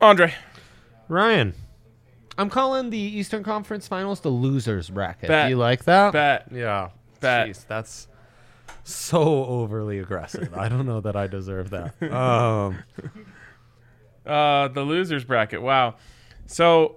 Andre. Ryan. I'm calling the Eastern Conference Finals the losers bracket. Bet. Do you like that? Bet. Yeah. Bet. Jeez, that's so overly aggressive. I don't know that I deserve that. The losers bracket. Wow. So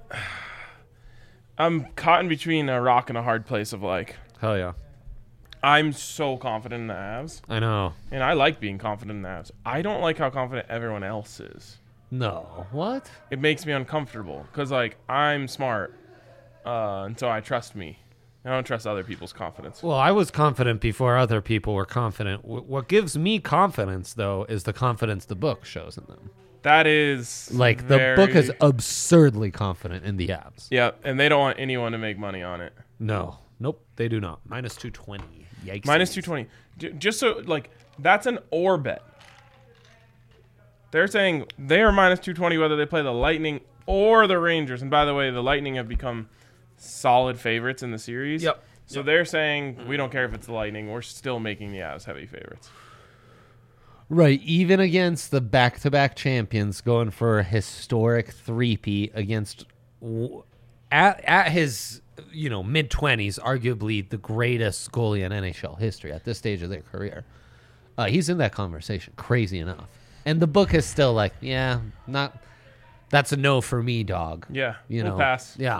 I'm caught in between a rock and a hard place of like, Hell yeah. I'm so confident in the Avs, I know. and I like being confident in the Avs. I don't like how confident everyone else is. No. What? It makes me uncomfortable because, like, I'm smart, and so I trust me. I don't trust other people's confidence. Well, I was confident before other people were confident. What gives me confidence, though, is the confidence the book shows in them. That is Like, the book is absurdly confident in the Avs. Yeah, and they don't want anyone to make money on it. No. Nope, they do not. Minus 220. Yikes. Minus 220. Just so, like, that's an or bet. They're saying they are minus 220 whether they play the Lightning or the Rangers. And by the way, the Lightning have become solid favorites in the series. Yep. So they're saying we don't care if it's the Lightning. We're still making the Avs heavy favorites. Right, even against the back-to-back champions going for a historic three-peat against at his mid-20s, arguably the greatest goalie in NHL history at this stage of their career. He's in that conversation, crazy enough. And the book is still like, that's a no for me, dog. Yeah, we'll pass. Yeah.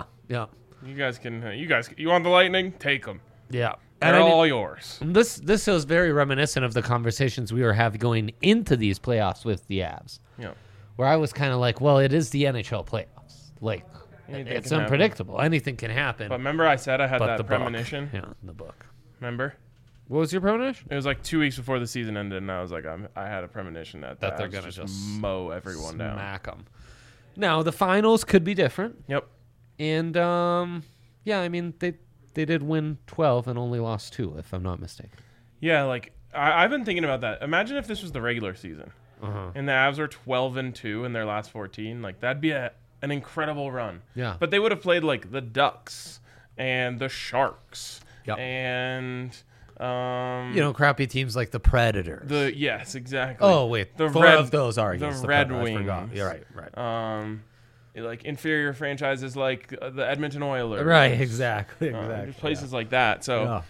You want the Lightning? Take them. Yeah. They're all yours. This is very reminiscent of the conversations we were having going into these playoffs with the Avs. Yeah. Where I was kind of like, well, it is the NHL playoffs. Like, Anything it's can unpredictable. happen. Anything can happen. But remember I said I had But that the premonition? book. Yeah, the book. Remember? What was your premonition? It was like 2 weeks before the season ended, and I was like, I had a premonition that They're Avs going to just mow everyone down. Smack them. Now, the finals could be different. Yep. And, I mean, they did win 12 and only lost 2, if I'm not mistaken. Yeah, like, I've been thinking about that. Imagine if this was the regular season, and the Avs are 12-2 in their last 14. Like, that'd be an incredible run. Yeah. But they would have played, like, the Ducks and the Sharks. Yep. And... crappy teams like the Predators. Yes, exactly. Oh, wait. The 4 of those are against the the Red Predators. I Wings. forgot. You're right. Like inferior franchises like the Edmonton Oilers. Right, exactly. Just places like that. So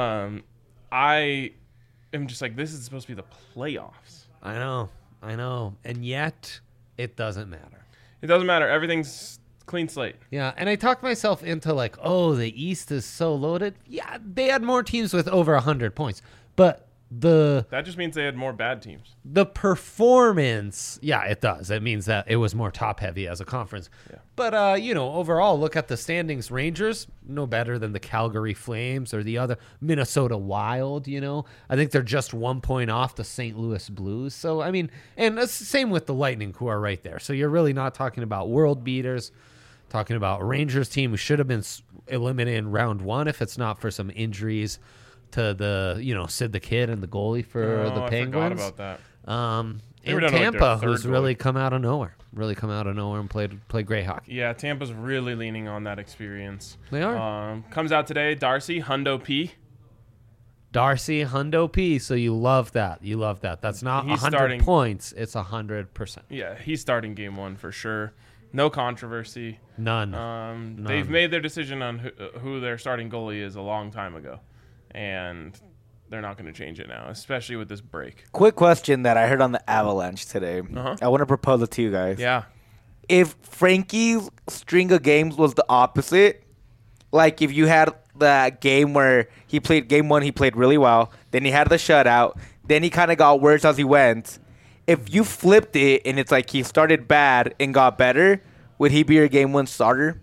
I am just like, this is supposed to be the playoffs. I know. And yet, it doesn't matter. It doesn't matter. Everything's clean slate. Yeah, and I talked myself into like, oh, the East is so loaded. Yeah, they had more teams with over 100 points. But that just means they had more bad teams. The performance, yeah, it does. It means that it was more top-heavy as a conference. Yeah. But, overall, look at the standings. Rangers, no better than the Calgary Flames or the other Minnesota Wild, I think they're just 1 point off the St. Louis Blues. So, I mean, and it's the same with the Lightning, who are right there. So you're really not talking about world beaters, talking about a Rangers team who should have been eliminated in round 1 if it's not for some injuries to the, Sid the Kid and the goalie for the Penguins. I forgot about that. And Tampa, who's really come out of nowhere. And played great hockey. Yeah, Tampa's really leaning on that experience. They are. Comes out today, Darcy, Hundo P. Darcy, Hundo P. So you love that. That's not 100 points. It's 100%. Yeah, he's starting game 1 for sure. No controversy. None. They've made their decision on who their starting goalie is a long time ago. And they're not going to change it now, especially with this break. Quick question that I heard on the Avalanche today. I want to propose it to you guys. Yeah. If Frankie's string of games was the opposite, like if you had that game where he played game 1, he played really well, then he had the shutout, then he kind of got worse as he went. If you flipped it and it's like he started bad and got better, would he be your game 1 starter?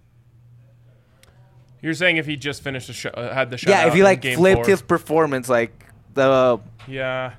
You're saying if he just finished had the shutout? Yeah, if he like game flipped 4. his performance, like the. Yeah,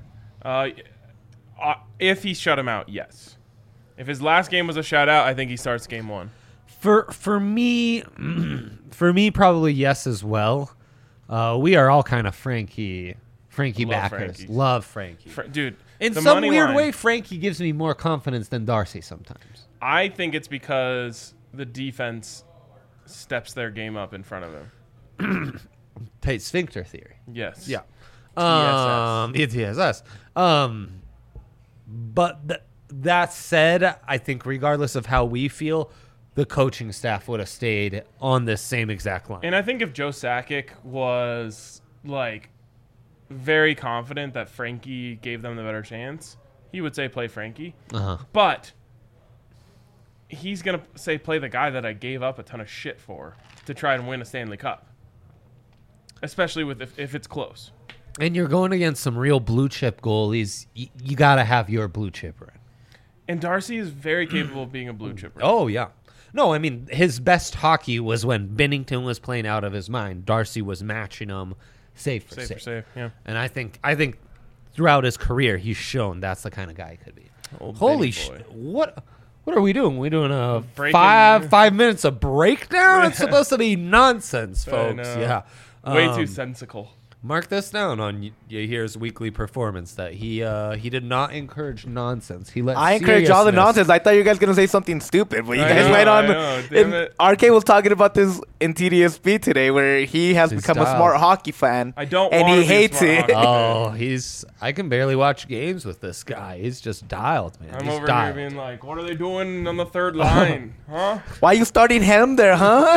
if he shut him out, yes. If his last game was a shutout, I think he starts game 1. For me, probably yes as well. We are all kind of Frankie backers. Love Frankie, dude. In some weird way, Frankie gives me more confidence than Darcy sometimes. I think it's because the defense steps their game up in front of him. Tight sphincter theory. Yes. Yeah. TSS. TSS. But That said, I think regardless of how we feel, the coaching staff would have stayed on this same exact line. And I think if Joe Sakic was like very confident that Frankie gave them the better chance, he would say play Frankie. Uh-huh. But he's going to say play the guy that I gave up a ton of shit for to try and win a Stanley Cup. Especially with if it's close. And you're going against some real blue chip goalies. You got to have your blue chipper in. And Darcy is very capable of being a blue chipper. Oh, yeah. No, I mean, his best hockey was when Binnington was playing out of his mind. Darcy was matching him save for save. Yeah. And I think throughout his career, he's shown that's the kind of guy he could be. Old Holy Benny shit. boy. What are we doing? We doing a Breaking- 5 minutes of breakdown? It's supposed to be nonsense, I folks. know. Yeah. Way too sensical. Mark this down on Yahir's weekly performance that he did not encourage nonsense. He let I encourage all the seriousness- nonsense. I thought you guys gonna say something stupid, but you I guys know, went on. I know. Damn it. RK was talking about this in TDSB today, where he has His become a style. smart hockey fan. I don't and wanna he be a hates smart it. hockey Oh, I can barely watch games with this guy. He's just dialed, man. I'm He's over dialed. here being like, what are they doing on the third line? Huh? Why you starting him there, huh?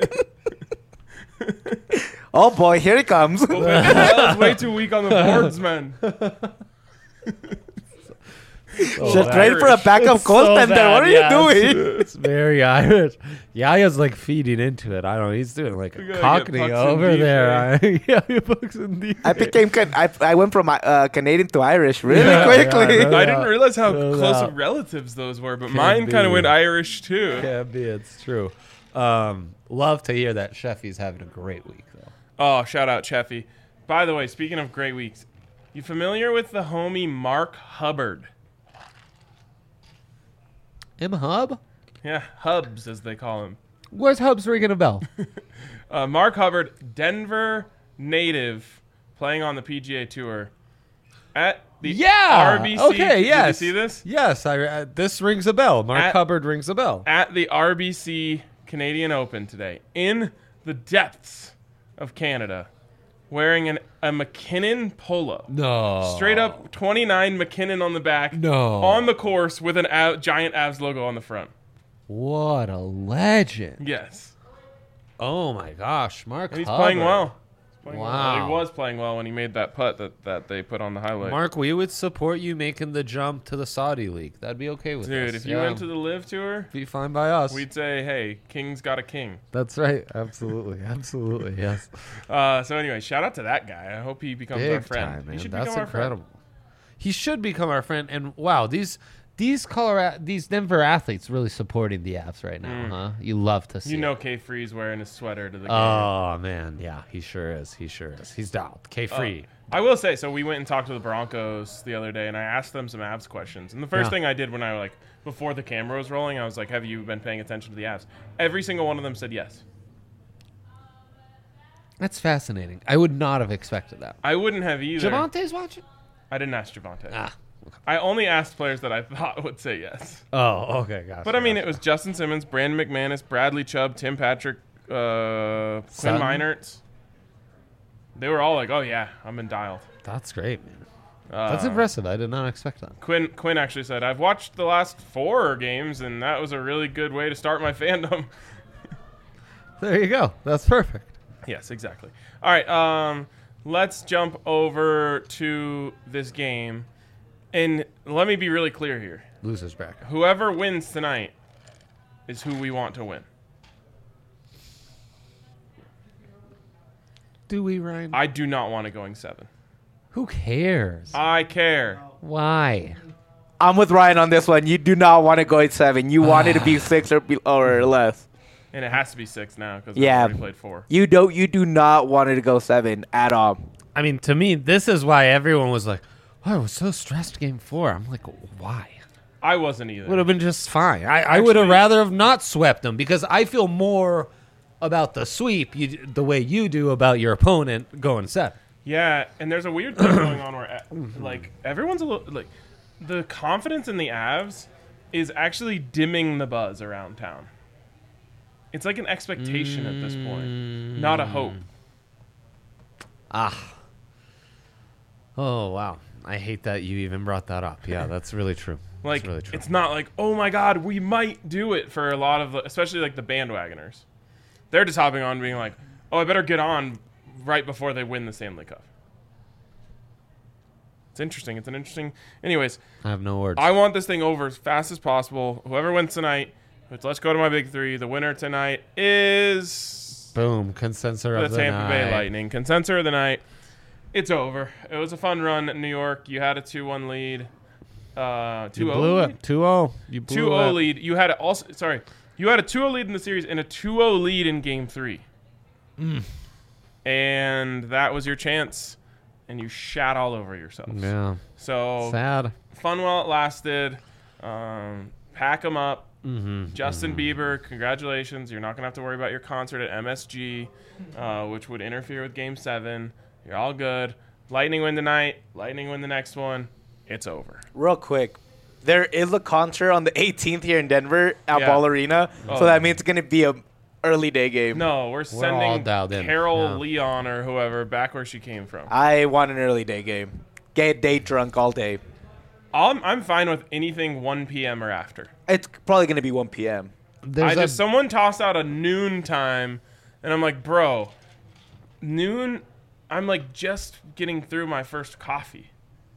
Oh boy, here he comes. That was way too weak on the boards, man. Just ready for a backup It's so goaltender. bad, What are yeah, you doing? It's very Irish. Yaya's like feeding into it. I don't know. He's doing like We a gotta cockney get pucks in over deep, there. Yeah, pucks in deep. I went from Canadian to Irish really Yeah, quickly. yeah, I didn't realize how No close doubt. of relatives those were, but Can't mine kind be. of went Irish too. Can't be. It's true. Love to hear that Sheffy's having a great week, though. Oh, shout out Cheffy. By the way, speaking of great weeks, you familiar with the homie Mark Hubbard? M Hub? Yeah, Hubs as they call him. Where's Hubs ringing a bell? Mark Hubbard, Denver native, playing on the PGA Tour at the RBC. Okay. Yes. Did you see this? Yes. This rings a bell. Mark At- Hubbard rings a bell. At the RBC Canadian Open today, in the depths of Canada, wearing a McKinnon polo. No. Straight up 29 McKinnon on the back. No. On the course with an giant Avs logo on the front. What a legend. Yes. Oh my gosh, Mark And he's Hubbard. playing well. He's playing well. Wow. He was playing well when he made that putt that they put on the highlight. Mark, we would support you making the jump to the Saudi League. That'd be okay with us. Dude, if you went to the Live Tour, be fine by us. we'd say, hey, King's got a king. That's right. Absolutely. Absolutely. Yes. So anyway, shout out to that guy. I hope he becomes our Big friend. time, man. He should That's become our incredible. He should become our friend. And wow, these Denver athletes really supporting the Avs right now, huh? You love to see. friend. You know it. K Free's wearing his sweater to the game. Oh man, yeah, he sure is. He sure is. He's dialed. K free. I will say, so we went and talked to the Broncos the other day, and I asked them some Avs questions. And the first Yeah. thing I did when I before the camera was rolling, I was like, have you been paying attention to the Avs? Every single one of them said yes. That's fascinating. I would not have expected that. I wouldn't have either. Javante's watching. I didn't ask Javante. Ah. I only asked players that I thought would say yes. Oh, okay, gotcha. But I mean, it was Justin Simmons, Brandon McManus, Bradley Chubb, Tim Patrick, Quinn Sutton? Meinertz. They were all like, "Oh yeah, I'm in dialed." That's great, man. That's Uh, impressive. I did not expect that. Quinn actually said, "I've watched the last 4 games, and that was a really good way to start my fandom." There you go. That's perfect. Yes, exactly. All right, let's jump over to this game, and let me be really clear here. Losers bracket. Whoever wins tonight is who we want to win. Do we, Ryan? I do not want it going 7. Who cares? I care. Why? I'm with Ryan on this one. You do not want to go at 7. You want it to be 6 or less. And it has to be 6 now because Yeah. we already played 4. You do not want it to go 7 at all. I mean, to me, this is why everyone was like, "Oh, I was so stressed game 4." I'm like, why? I wasn't either. Would have been just fine. I would have rather have not swept them because I feel more about the sweep the way you do about your opponent going 7. Yeah, and there's a weird thing going on where like everyone's a little like the confidence in the Avs is actually dimming the buzz around town. It's like an expectation at this point, not a hope. Oh, wow. I hate that you even brought that up. Yeah, that's really true. Like, really true. it's not like, oh my God, we might do it for a lot of, especially like the bandwagoners. They're just hopping on being like, oh, I better get on right before they win the Stanley Cup. It's interesting. It's an interesting. Anyways, I have no words. I want this thing over as fast as possible. Whoever wins tonight, let's go to my big three. The winner tonight is Boom. Consensus the of the Tampa Bay night. Lightning. Consensus of the night. It's over. It was a fun run in New York. You had a 2-1 lead. 2-0 You blew lead? it. 2-0. You blew 2-0 it. lead. You had you had a 2-0 lead in the series and a 2-0 lead in Game 3. And that was your chance, and you shat all over yourselves. Yeah. So Sad. fun while it lasted. Pack them up. Justin Bieber, congratulations. You're not going to have to worry about your concert at MSG, which would interfere with Game 7. You're all good. Lightning win tonight. Lightning win the next one. It's over. Real quick, there is a concert on the 18th here in Denver at Yeah. Ball Arena, Oh. so that means it's gonna be a early day game. No, we're all sending dialed in. Carol Yeah. Leon or whoever back where she came from. I want an early day game. Get day drunk all day. I'm fine with anything 1 p.m. or after. It's probably gonna be 1 p.m. There's Someone tossed out a noon time, and I'm like, bro, noon. I'm like just getting through my first coffee.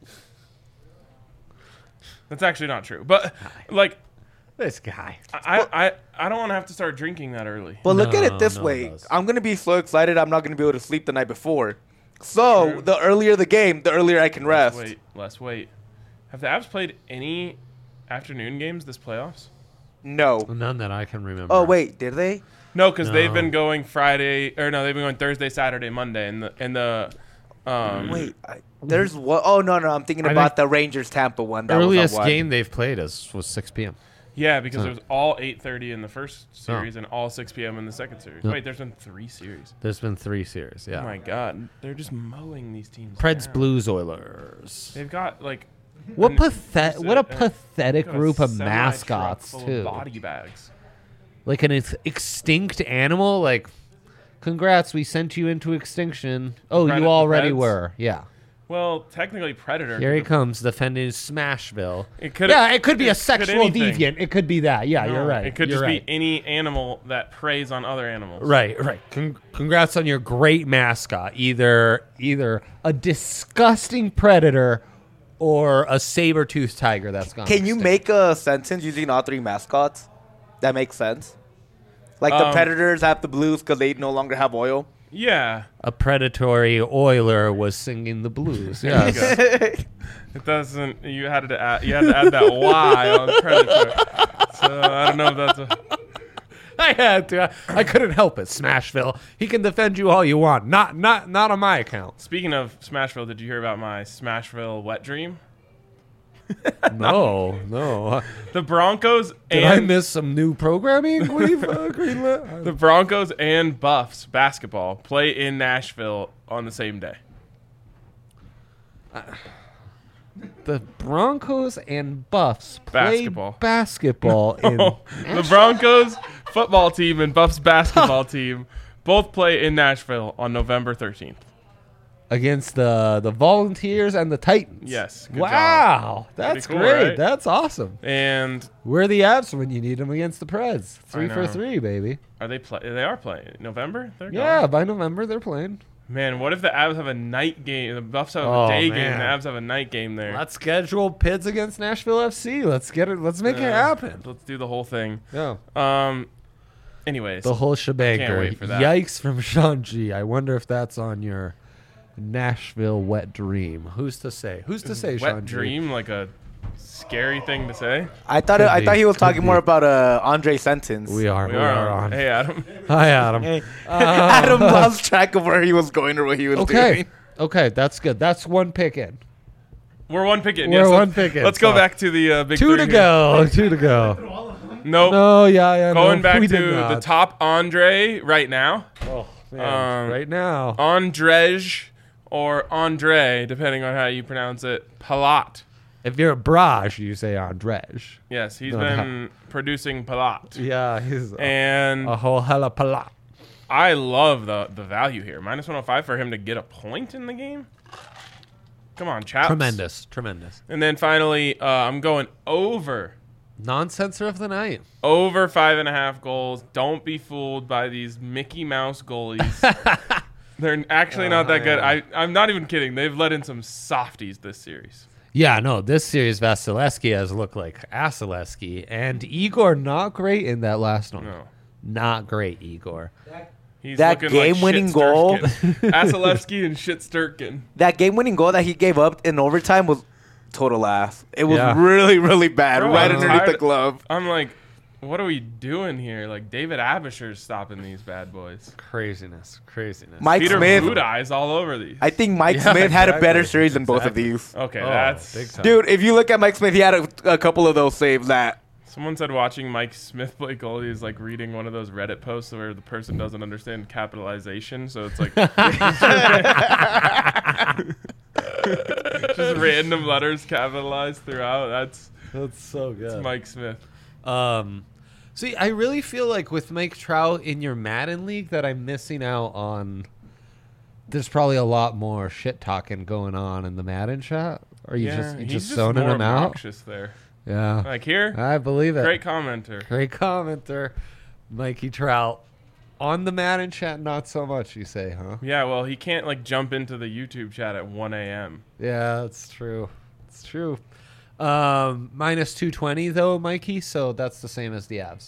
That's actually not true, but like this guy. I don't want to have to start drinking that early. But look at No, it this no one way. does. I'm gonna be so excited. I'm not gonna be able to sleep the night before. So True. the earlier the game, the earlier I can rest. Let's wait. Have the Avs played any afternoon games this playoffs? No. None that I can remember. Oh wait, did they? No, because they've No. been going Friday or no, they've been going Thursday, Saturday, Monday, and the Wait, there's what? Oh no, I'm thinking I about the Rangers Tampa one. That Earliest was on game they've played was 6 p.m. Yeah, because Huh. it was all 8:30 in the first series and all 6 p.m. in the second series. Yep. Wait, there's been 3 series. There's been 3 series. Yeah. Oh my God, they're just mowing these teams. Preds, down. Blues, Oilers. They've got like What an- what a a- pathetic got a group of semi-truck mascots full of too. body bags. Like an extinct animal. Like, congrats, we sent you into extinction. Oh, Pred- you the already Preds? were. Yeah. Well, technically, Predator. Here he could- comes defending Smashville. It could. Yeah, it could be a could sexual anything. deviant. It could be that. Yeah, No, you're right. It could You're just right. be any animal that preys on other animals. Right. Congrats on your great mascot. Either a disgusting predator or a saber-toothed tiger that's gone. Can you extinct. make a sentence using all 3 mascots? That makes sense. Like the Predators have the Blues because they no longer have oil. Yeah, a predatory oiler was singing the blues? Yes. it doesn't. You had to add that Y on Predator. So I don't know if that's a. I had to. I couldn't help it. Smashville. He can defend you all you want. Not on my account. Speaking of Smashville, did you hear about my Smashville wet dream? No. The Broncos Did I and miss some new programming? We've greenlit. the Broncos and Buffs basketball play in Nashville on the same day. The Broncos and Buffs play basketball in The Broncos football team and Buffs basketball team both play in Nashville on November 13th. against the Volunteers and the Titans. Yes. Good Wow, job. that's Pretty cool, great. right? That's awesome. And We're the Avs when you need them against the Preds. I 3 for know. 3, baby. are they They are playing November. They're Yeah, going. by November they're playing. Man, what if the Avs have a night game? The Buffs have Oh, a day man. game. The Avs have a night game there. Let's schedule Pids against Nashville FC. Let's get it. Let's make it happen. Let's do the whole thing. Yeah. Anyways, The whole shebang. Can't wait for that. Yikes from Sean G. I wonder if that's on your Nashville wet dream. Who's to say? Who's to say, wet Sean G? dream, like a scary thing to say. I thought Could I be, thought he was could talking be. more about Andre sentence. We are. We are on. Hey, Adam. Hi, Adam. Hey, Adam lost track of where he was going or what he was Okay. doing. Okay, that's good. That's one pick in. We're one pick in. We're Yes, one pick in, Let's go so- back to the big 2 three to here. go. 2 to go. Nope. No, yeah. Going no, back we to did the not. top Andre right now. Oh, man. Right now. Andrej or Andre, depending on how you pronounce it. Palat. If you're a Braj, you say Andrej. Yes, he's No, been producing Palat. Yeah, he's And a whole hella pala. I love the value here. -105 for him to get a point in the game. Come on, chaps. Tremendous. And then finally, I'm going over. Non-censor of the night. Over 5.5 goals. Don't be fooled by these Mickey Mouse goalies. They're actually not that good. I'm not even kidding. They've let in some softies this series. Yeah, no, this series Vasilevsky has looked like Vasilevsky, and Igor not great in that last one. No. Not great, Igor. He's That looking like game-winning Shit goal- Sturkin. Vasilevsky and Shit Sturkin. That game-winning goal that he gave up in overtime was total ass. It was Yeah. really, really bad, Bro, right I'm underneath the tired- glove. I'm like, what are we doing here? Like, David Abisher's stopping these bad boys. Craziness. Mike Peter Smith. Budaj is all over these. I think Mike Yeah, Smith had a better exactly. series than both of Exactly. these. Okay, Oh, that's... big time. Dude, if you look at Mike Smith, he had a couple of those saves that... Someone said watching Mike Smith play goalie is like reading one of those Reddit posts where the person doesn't understand capitalization, so it's like just random letters capitalized throughout. That's so That's good. Mike Smith. See, I really feel like with Mike Trout in your Madden league that I'm missing out on. There's probably a lot more shit talking going on in the Madden chat. Or you Yeah, just he's zoning more them out? obnoxious there. Yeah. Like here, I believe it. great commenter. Great commenter. Mikey Trout. On the Madden chat, not so much, you say, huh? Yeah, well, he can't like jump into the YouTube chat at 1 a.m. Yeah, that's true. It's true. Minus 220, though, Mikey, so that's the same as the Avs.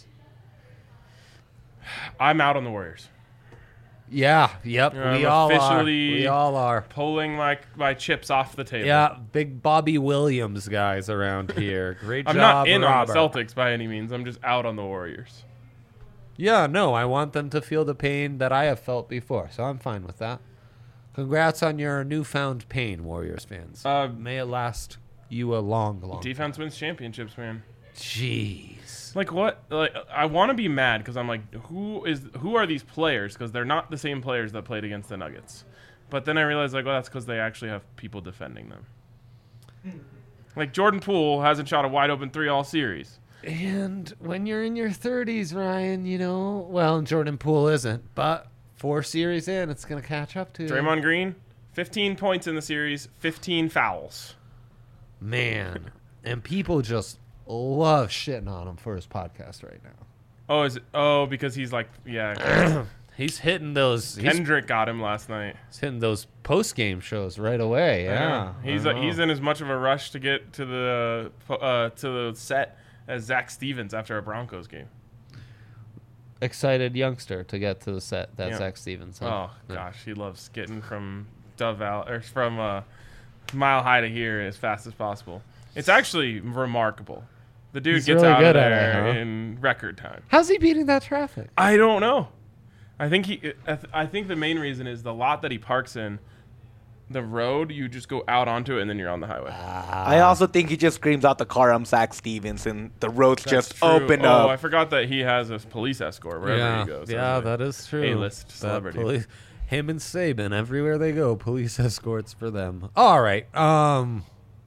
I'm out on the Warriors. Yeah, yep, I'm we all are. officially- We all are. Pulling my chips off the table. Yeah, big Bobby Williams guys around here. Great I'm job, not in Robert. on the Celtics by any means. I'm just out on the Warriors. Yeah, no, I want them to feel the pain that I have felt before, so I'm fine with that. Congrats on your newfound pain, Warriors fans. May it last you a long, long Defense wins championships, man. Jeez. Like what? Like I want to be mad because I'm like, who are these players? Because they're not the same players that played against the Nuggets. But then I realized like, well, that's because they actually have people defending them. Like Jordan Poole hasn't shot a wide open three all series. And when you're in your 30s, Ryan, you know, well, Jordan Poole isn't, but 4 series in, it's going to catch up to you. Draymond Green, 15 points in the series, 15 fouls. Man. And people just love shitting on him for his podcast right now. Oh, is it? Oh, because he's like, yeah. He's hitting those. Kendrick got him last night. He's hitting those post game shows right away. Yeah, He's in as much of a rush to get to the set as Zach Stevens after a Broncos game. excited youngster to get to the set. That's Yeah. Zach Stevens. Oh Huh? Yeah. gosh, he loves getting from Dove Valley or from Mile High to here as fast as possible. It's actually remarkable. The dude He's gets really out good of at it, there huh? in record time. How's he beating that traffic? I don't know. I think I think the main reason is the lot that he parks in. The road, you just go out onto it and then you're on the highway. I also think he just screams out the car, I'm Zach Stevens, and the roads That's just true. open Oh, I up. forgot that he has a police escort wherever he goes. yeah, that is true. A-list That celebrity. him and Saban, everywhere they go, police escorts for them. All right. I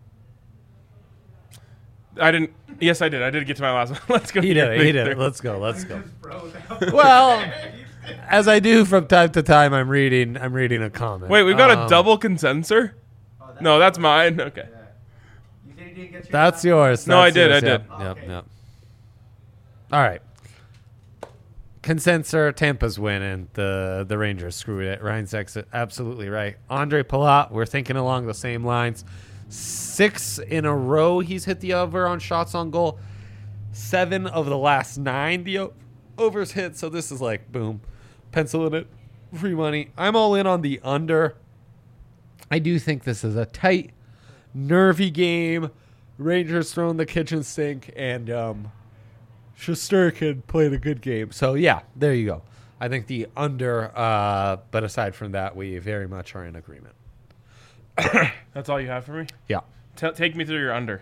didn't. Yes, I did. I did get to my last one. Let's go. He to your did it. He thing did there. it. Let's go. Let's go. Well, as I do from time to time, I'm reading a comment. Wait, we've got a double consensor? No, that's mine. Okay. That's yours. No, I That's did, yours. I Yep, did. Yep. Yep. All right. Consensor, Tampa's winning. The Rangers screwed it. Ryan's absolutely right. Andre Palat, we're thinking along the same lines. 6 in a row he's hit the over on shots on goal. 7 of the last 9 the overs hit. So this is like, boom, pencil in it, free money. I'm all in on the under. I do think this is a tight, nervy game. Rangers throwing the kitchen sink, and Shesterkin played a good game. So, yeah, there you go. I think the under, but aside from that, we very much are in agreement. That's all you have for me? Yeah. Take me through your under.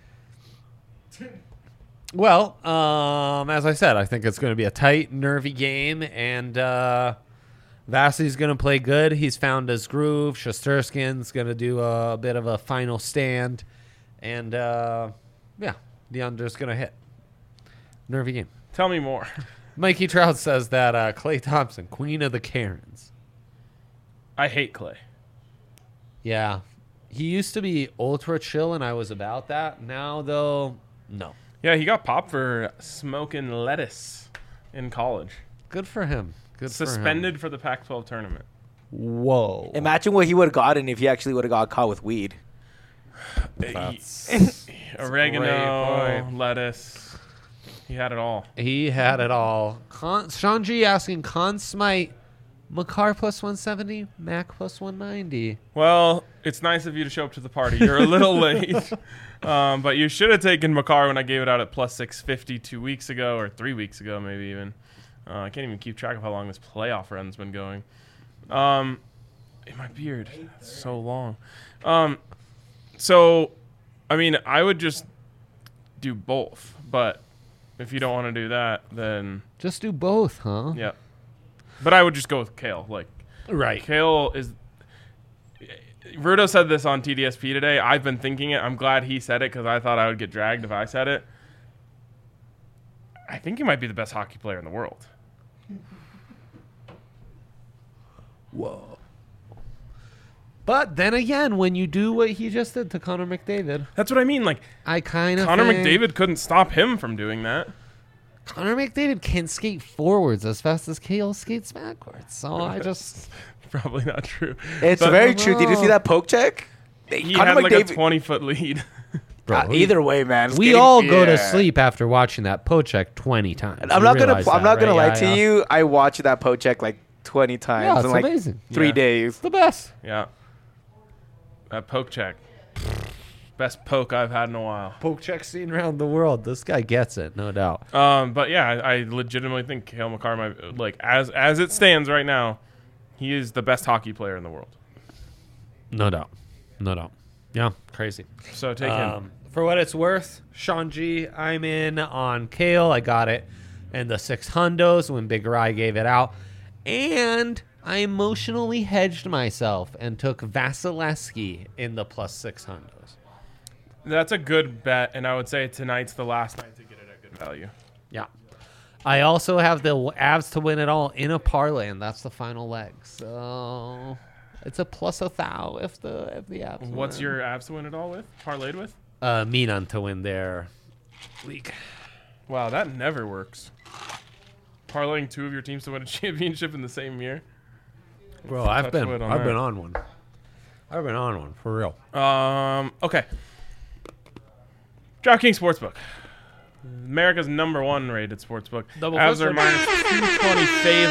Well, as I said, I think it's going to be a tight, nervy game, and Vasily's going to play good. He's found his groove. Shesterkin's going to do a bit of a final stand, and yeah, the under's going to hit. Nervy game. Tell me more. Mikey Trout says that Klay Thompson, queen of the Karens. I hate Clay. Yeah, He used to be ultra chill, and I was about that. Now, though, no. Yeah, he got popped for smoking lettuce in college. Good for him. Good Suspended for the Pac-12 tournament. for him. Whoa. Imagine what he would have gotten if he actually would have got caught with weed. That's Oregano, Great lettuce. He had it all. He had it all. Sean G asking Con Smite, Makar plus 170, Mac plus 190. Well, it's nice of you to show up to the party. You're a little late. But you should have taken Makar when I gave it out at plus 650 2 weeks ago, or 3 weeks ago, maybe even. I can't even keep track of how long this playoff run's been going. In my beard. It's so long. So, I mean, I would just do both. But if you don't want to do that, then Just do both, huh? yeah. But I would just go with Kale. Like, Right. Kale is. Rudo said this on TDSP today. I've been thinking it. I'm glad he said it because I thought I would get dragged if I said it. I think he might be the best hockey player in the world. Whoa. But then again, when you do what he just did to Connor McDavid, That's what I mean. Like, I kind of Connor McDavid couldn't stop him from doing that. Connor McDavid can skate forwards as fast as Kale skates backwards. So I just Probably not true. It's But very true. Did you see that poke check? He Connor had like a McDavid- 20-foot lead. Bro, either way, man. we skating- all go to yeah. sleep after watching that Pocheck 20 times. I'm You not gonna. realize I'm that, not gonna right? lie to you. I watched that poke check like 20 times Yeah, it's in like amazing. 3 Yeah. days. It's the best. Yeah. That poke check. Best poke I've had in a while. Pocheck seen around the world. This guy gets it, no doubt. But yeah, I legitimately think Kale McCarr might, like, as it stands right now, he is the best hockey player in the world. No doubt. No doubt. Yeah, crazy. So take him. For what it's worth, Sean G, I'm in on Kale. I got it in the 6 hundos when Big Rye gave it out. And I emotionally hedged myself and took Vasilevsky in the plus 6 hundos. That's a good bet, and I would say tonight's the last night to get it at good value. Yeah. I also have the Avs to win it all in a parlay, and that's the final leg. So it's a plus 1,000 if the Avs What's win. your Avs to win it all with? Parlayed with? Milan to win their league. Wow, that never works. Parlaying 2 of your teams to win a championship in the same year. Bro, I've Touch been wood on I've that. been on one. I've been on one for real. Okay. DraftKings Sportsbook. America's #1 rated sportsbook. Double Avs are fisted. minus 220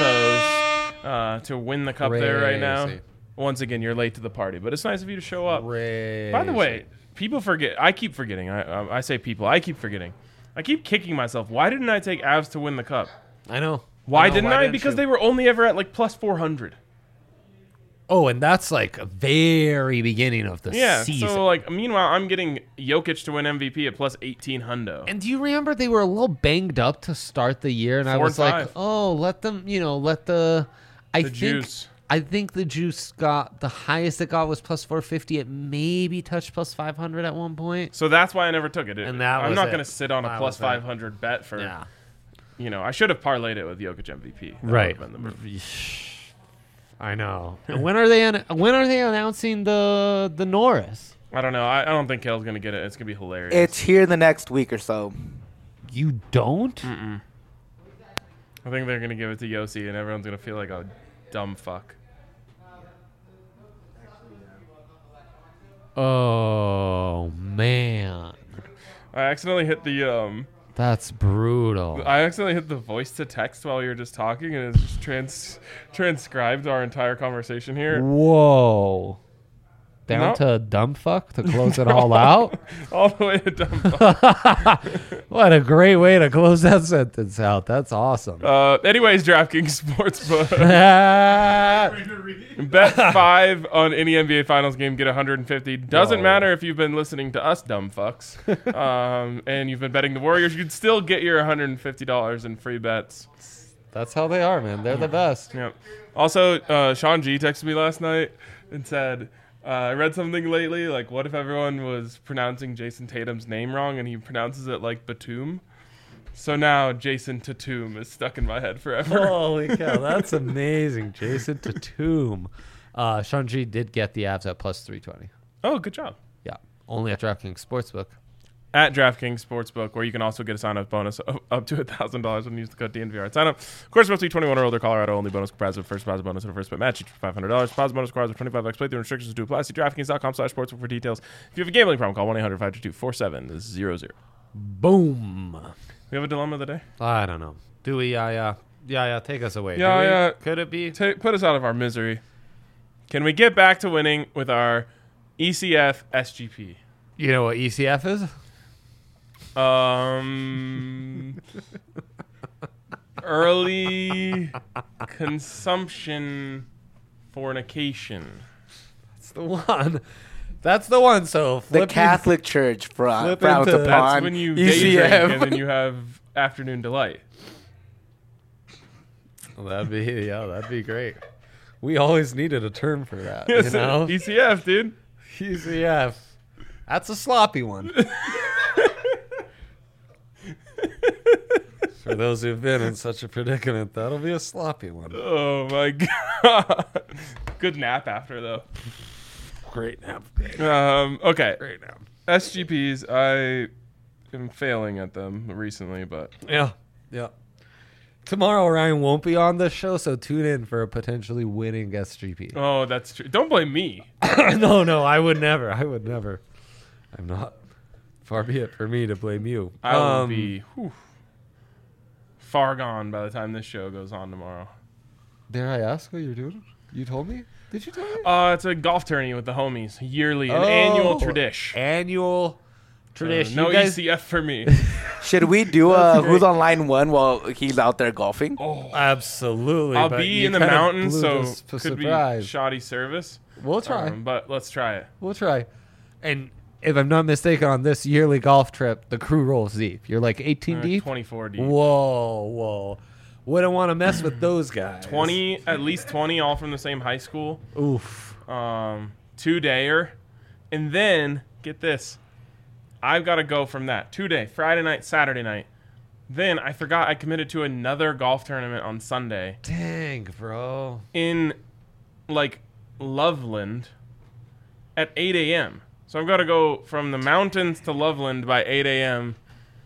favos to win the cup there right now. Crazy. Once again, you're late to the party, but it's nice of you to show up. Crazy. By the way, people forget. I keep forgetting. I say people. I keep forgetting. I keep kicking myself. Why didn't I take Avs to win the cup? I know. Why know, didn't I? didn't Because you? they were only ever at like plus 400. Oh, and that's like a very beginning of the Yeah. season. So like, meanwhile, I'm getting Jokic to win MVP at plus 18 hundo. And do you remember they were a little banged up to start the year, and I 4 was and like, 5. "Oh, let them, let the." Juice. I think the juice got the highest it got was plus 450. It maybe touched plus 500 at one point. So that's why I never took it. And that I'm was not it. going to sit on a That plus was it. 500 bet for. I should have parlayed it with Jokic MVP. That Right. would've been the move. I know. And when are they announcing the Norris? I don't know. I don't think Kale's going to get it. It's going to be hilarious. It's here in the next week or so. You don't? I think they're going to give it to Yossi, and everyone's going to feel like a dumb fuck. Oh man, I accidentally hit the that's brutal. I accidentally hit the voice to text while you were just talking, and it just transcribed our entire conversation here. Whoa. Down No. to dumb fuck to close it all out? All the way to dumb fuck. What a great way to close that sentence out. That's awesome. Anyways, DraftKings Sportsbook. Bet 5 on any NBA Finals game, get 150. Doesn't Whoa. matter if you've been listening to us, dumb fucks, and you've been betting the Warriors. You'd still get your $150 in free bets. That's how they are, man. They're the best. Yep. Also, Sean G texted me last night and said, I read something lately, like, what if everyone was pronouncing Jason Tatum's name wrong and he pronounces it like Batum? So now Jason Tatum is stuck in my head forever. Holy cow, that's amazing. Jason Tatum. Sean G did get the Avs at plus 320. Oh, good job. Yeah, only at DraftKings Sportsbook. At DraftKings Sportsbook, where you can also get a sign-up bonus of up to $1,000 when you use the code DNVR at sign-up. Of course, must be 21 or older. Colorado only. Bonus comprised of first deposit bonus and a first bet match. Each for $500. Deposit bonus requires a 25x playthrough. Restrictions do apply. See DraftKings.com/sportsbook for details. If you have a gambling problem, call 1-800-522-4700. Boom. We have a dilemma of the day. I don't know. Do we? Yeah. Take us away. Yeah, yeah. Could it be? Put us out of our misery. Can we get back to winning with our ECF SGP? You know what ECF is? Early consumption fornication. That's the one. That's the one. So The flip Catholic Church frowns flip into- upon That's when you day drink ECF. and then you have afternoon delight. That'd be great. We always needed a term for that. Yes, You know? ECF, dude. ECF. That's a sloppy one. For those who've been in such a predicament, that'll be a sloppy one. Oh my god. Good nap after though. Great nap. Okay. Great nap. SGPs, I am failing at them recently, but Yeah. Tomorrow Ryan won't be on this show, so tune in for a potentially winning SGP. oh, that's true. Don't blame me. No, I would never. I'm not. Far be it for me to blame you. I will be far gone by the time this show goes on tomorrow. Dare I ask what you're doing? You told me? Did you tell me? It's a golf tourney with the homies, yearly, an annual tradition. Annual tradition. No You guys- ECF for me. Should we do That's who's great. on line one while he's out there golfing? Oh, Absolutely. I'll but be you in the kinda mountains, blew so this for could surprise. be shoddy service. We'll try. But let's try it. We'll try. And if I'm not mistaken, on this yearly golf trip, the crew rolls deep. You're like 18 deep? 24 deep. Whoa. Wouldn't want to mess with those guys. 20, at least 20, all from the same high school. Oof. 2-dayer. And then, get this. I've got to go from that. 2-day, Friday night, Saturday night. Then I forgot I committed to another golf tournament on Sunday Dang, bro. in, like, Loveland at 8 a.m. So I've got to go from the mountains to Loveland by 8 a.m.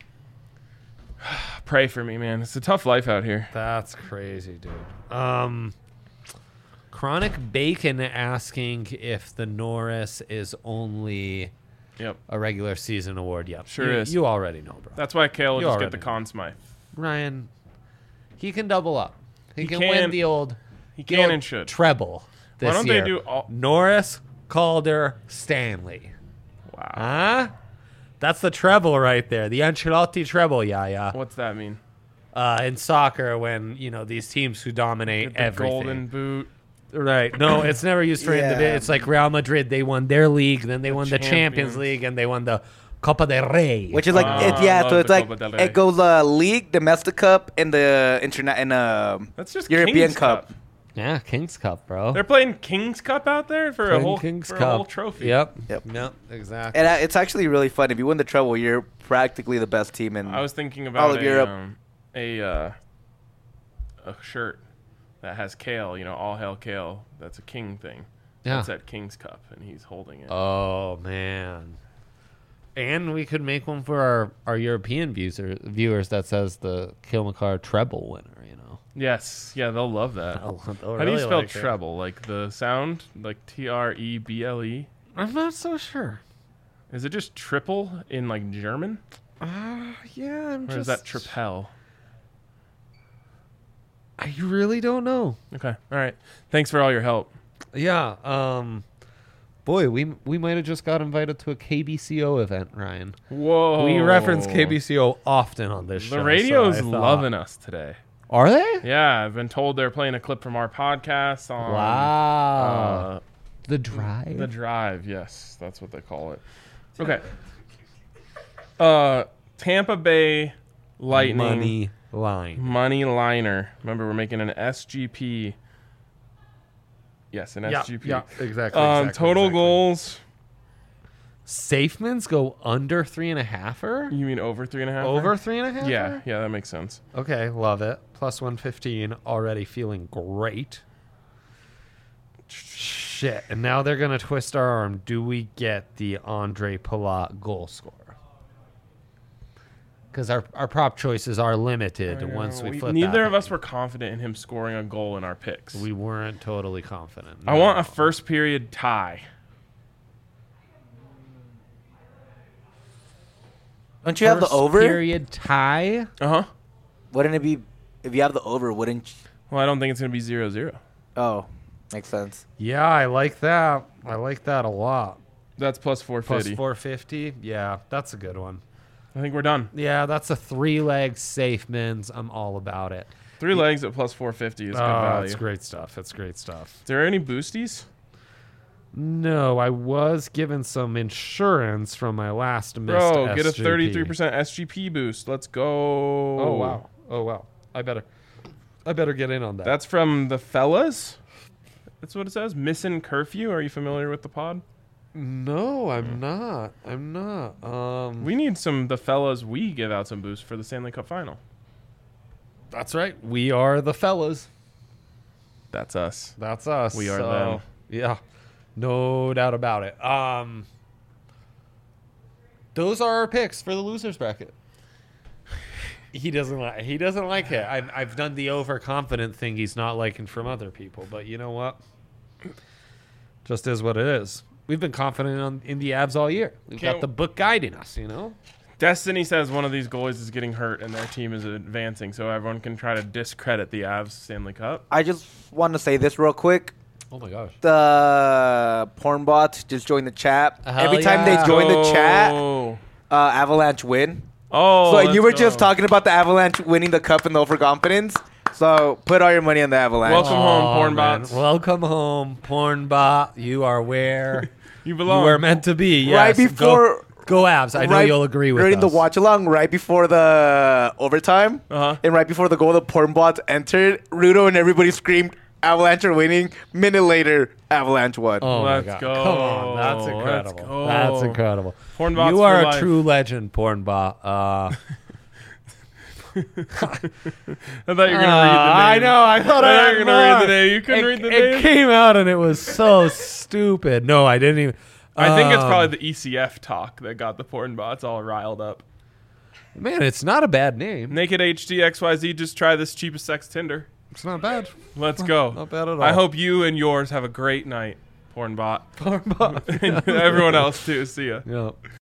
Pray for me, man. It's a tough life out here. That's crazy, dude. Chronic Bacon asking if the Norris is only Yep. a regular season award. Yep. Sure you, is. You already know, bro. That's why Kale will You just get already the know. Conn Smythe. Ryan, he can double up. He can can. win the old, He the can old and should. treble this Why don't year. they do all... Norris, Calder, Stanley. Wow. Huh? That's the treble right there. The Ancelotti treble, yeah. What's that mean? In soccer, when, these teams who dominate Get the everything. golden boot. Right. No, it's never used for Yeah. individual. It's like Real Madrid. They won their league, then they won the Champions. Champions League, and they won the Copa del Rey. Which is like, Ah, so love it's the like, Copa del Rey. it goes league, domestic cup, and the That's just European King's Cup. Yeah, King's Cup, bro. They're playing King's Cup out there for a Playing whole King's for a Cup. whole trophy. Yep, Yep. exactly. And it's actually really fun. If you win the treble, you're practically the best team in. I was thinking All about of Europe. a shirt that has Kale. All hail Kale. That's a King thing. Yeah. That's at King's Cup, and he's holding it. Oh man. And we could make one for our European viewers that says the Kilmacar treble winner. Yes, yeah, they'll love that. They'll How do you really spell like it. treble? Like the sound, like Treble? I'm not so sure. Is it just triple in like German, Yeah, I'm or is that tripel? I really don't know. Okay, all right. Thanks for all your help. Yeah. Boy, we might have just got invited to a KBCO event, Ryan. Whoa. We reference KBCO often on this show. The radio's so I thought- loving us today. Are they? Yeah, I've been told they're playing a clip from our podcast on Wow. The drive. The Drive. Yes, that's what they call it. Okay. Tampa Bay Lightning Money line. liner. Remember, we're making an SGP. Yes, an SGP. Yeah, exactly. Total goals. Safemans go under 3.5er? You mean over 3.5? Over 3.5? Yeah, that makes sense. Okay, love it. Plus 115. Already feeling great. shit. And now they're going to twist our arm. Do we get the Andre Palat goal scorer? Because our prop choices are limited once we flip Neither that of us thing. were confident in him scoring a goal in our picks. We weren't totally confident. I want a first period tie. Don't you have the First over? period tie. Uh-huh. Wouldn't it be if you have the over? Wouldn't? Well, I don't think it's going to be 0-0. Oh, makes sense. Yeah, I like that. I like that a lot. That's plus Plus 450. 450. Yeah, that's a good one. I think we're done. Yeah, that's a 3-leg safe mins. I'm all about it. 3 legs at plus 450 is good Oh, value. that's great stuff. That's great stuff. Is there any boosties? No, I was given some insurance from my last missed Bro, get a SGP. 33% SGP boost. Let's go. Oh wow. Oh wow. I better get in on that. That's from the fellas? That's what it says? Missing Curfew. Are you familiar with the pod? No, I'm not. I'm not. We need the fellas. We give out some boosts for the Stanley Cup final. That's right. We are the fellas. That's us. That's us. We are them. Yeah. No doubt about it. Those are our picks for the losers bracket. He doesn't like it. I've done the overconfident thing he's not liking from other people, but you know what? Just is what it is. We've been confident in the Avs all year. We've got the book guiding us, you know? Destiny says one of these goalies is getting hurt and their team is advancing, so everyone can try to discredit the Avs Stanley Cup. I just want to say this real quick. Oh my gosh. The porn bots just joined the chat. Hell Every time yeah. they join the chat, Oh, Avalanche win. oh So you were let's just go. talking about the Avalanche winning the cup and the overconfidence. So put all your money on the Avalanche. Welcome home, porn man. bots. Welcome home, porn bot. You are where You you belong. are meant to be. Yes. Right before- Go Avs. I know right you'll agree with during us. the watch along, right before the overtime, Uh-huh. and right before the goal, the porn bots entered. Rudo and everybody screamed, "Avalanche are winning!" Minute later, Avalanche won. Oh Let's my God. go. Come on. That's Let's incredible. go. That's incredible. Porn bots You are for a life. true legend, porn bot. I thought you were going to read the name. I know. I thought I I thought had you were gonna read more. the name. You couldn't read the It name? came out and it was so stupid. No, I didn't even. I think it's probably the ECF talk that got the porn bots all riled up. Man, it's not a bad name. Naked HD XYZ, just try this cheapest sex Tinder. It's not bad. Let's go. Not bad at all. I hope you and yours have a great night, porn bot. Porn bot. And everyone else too. See ya. Yeah.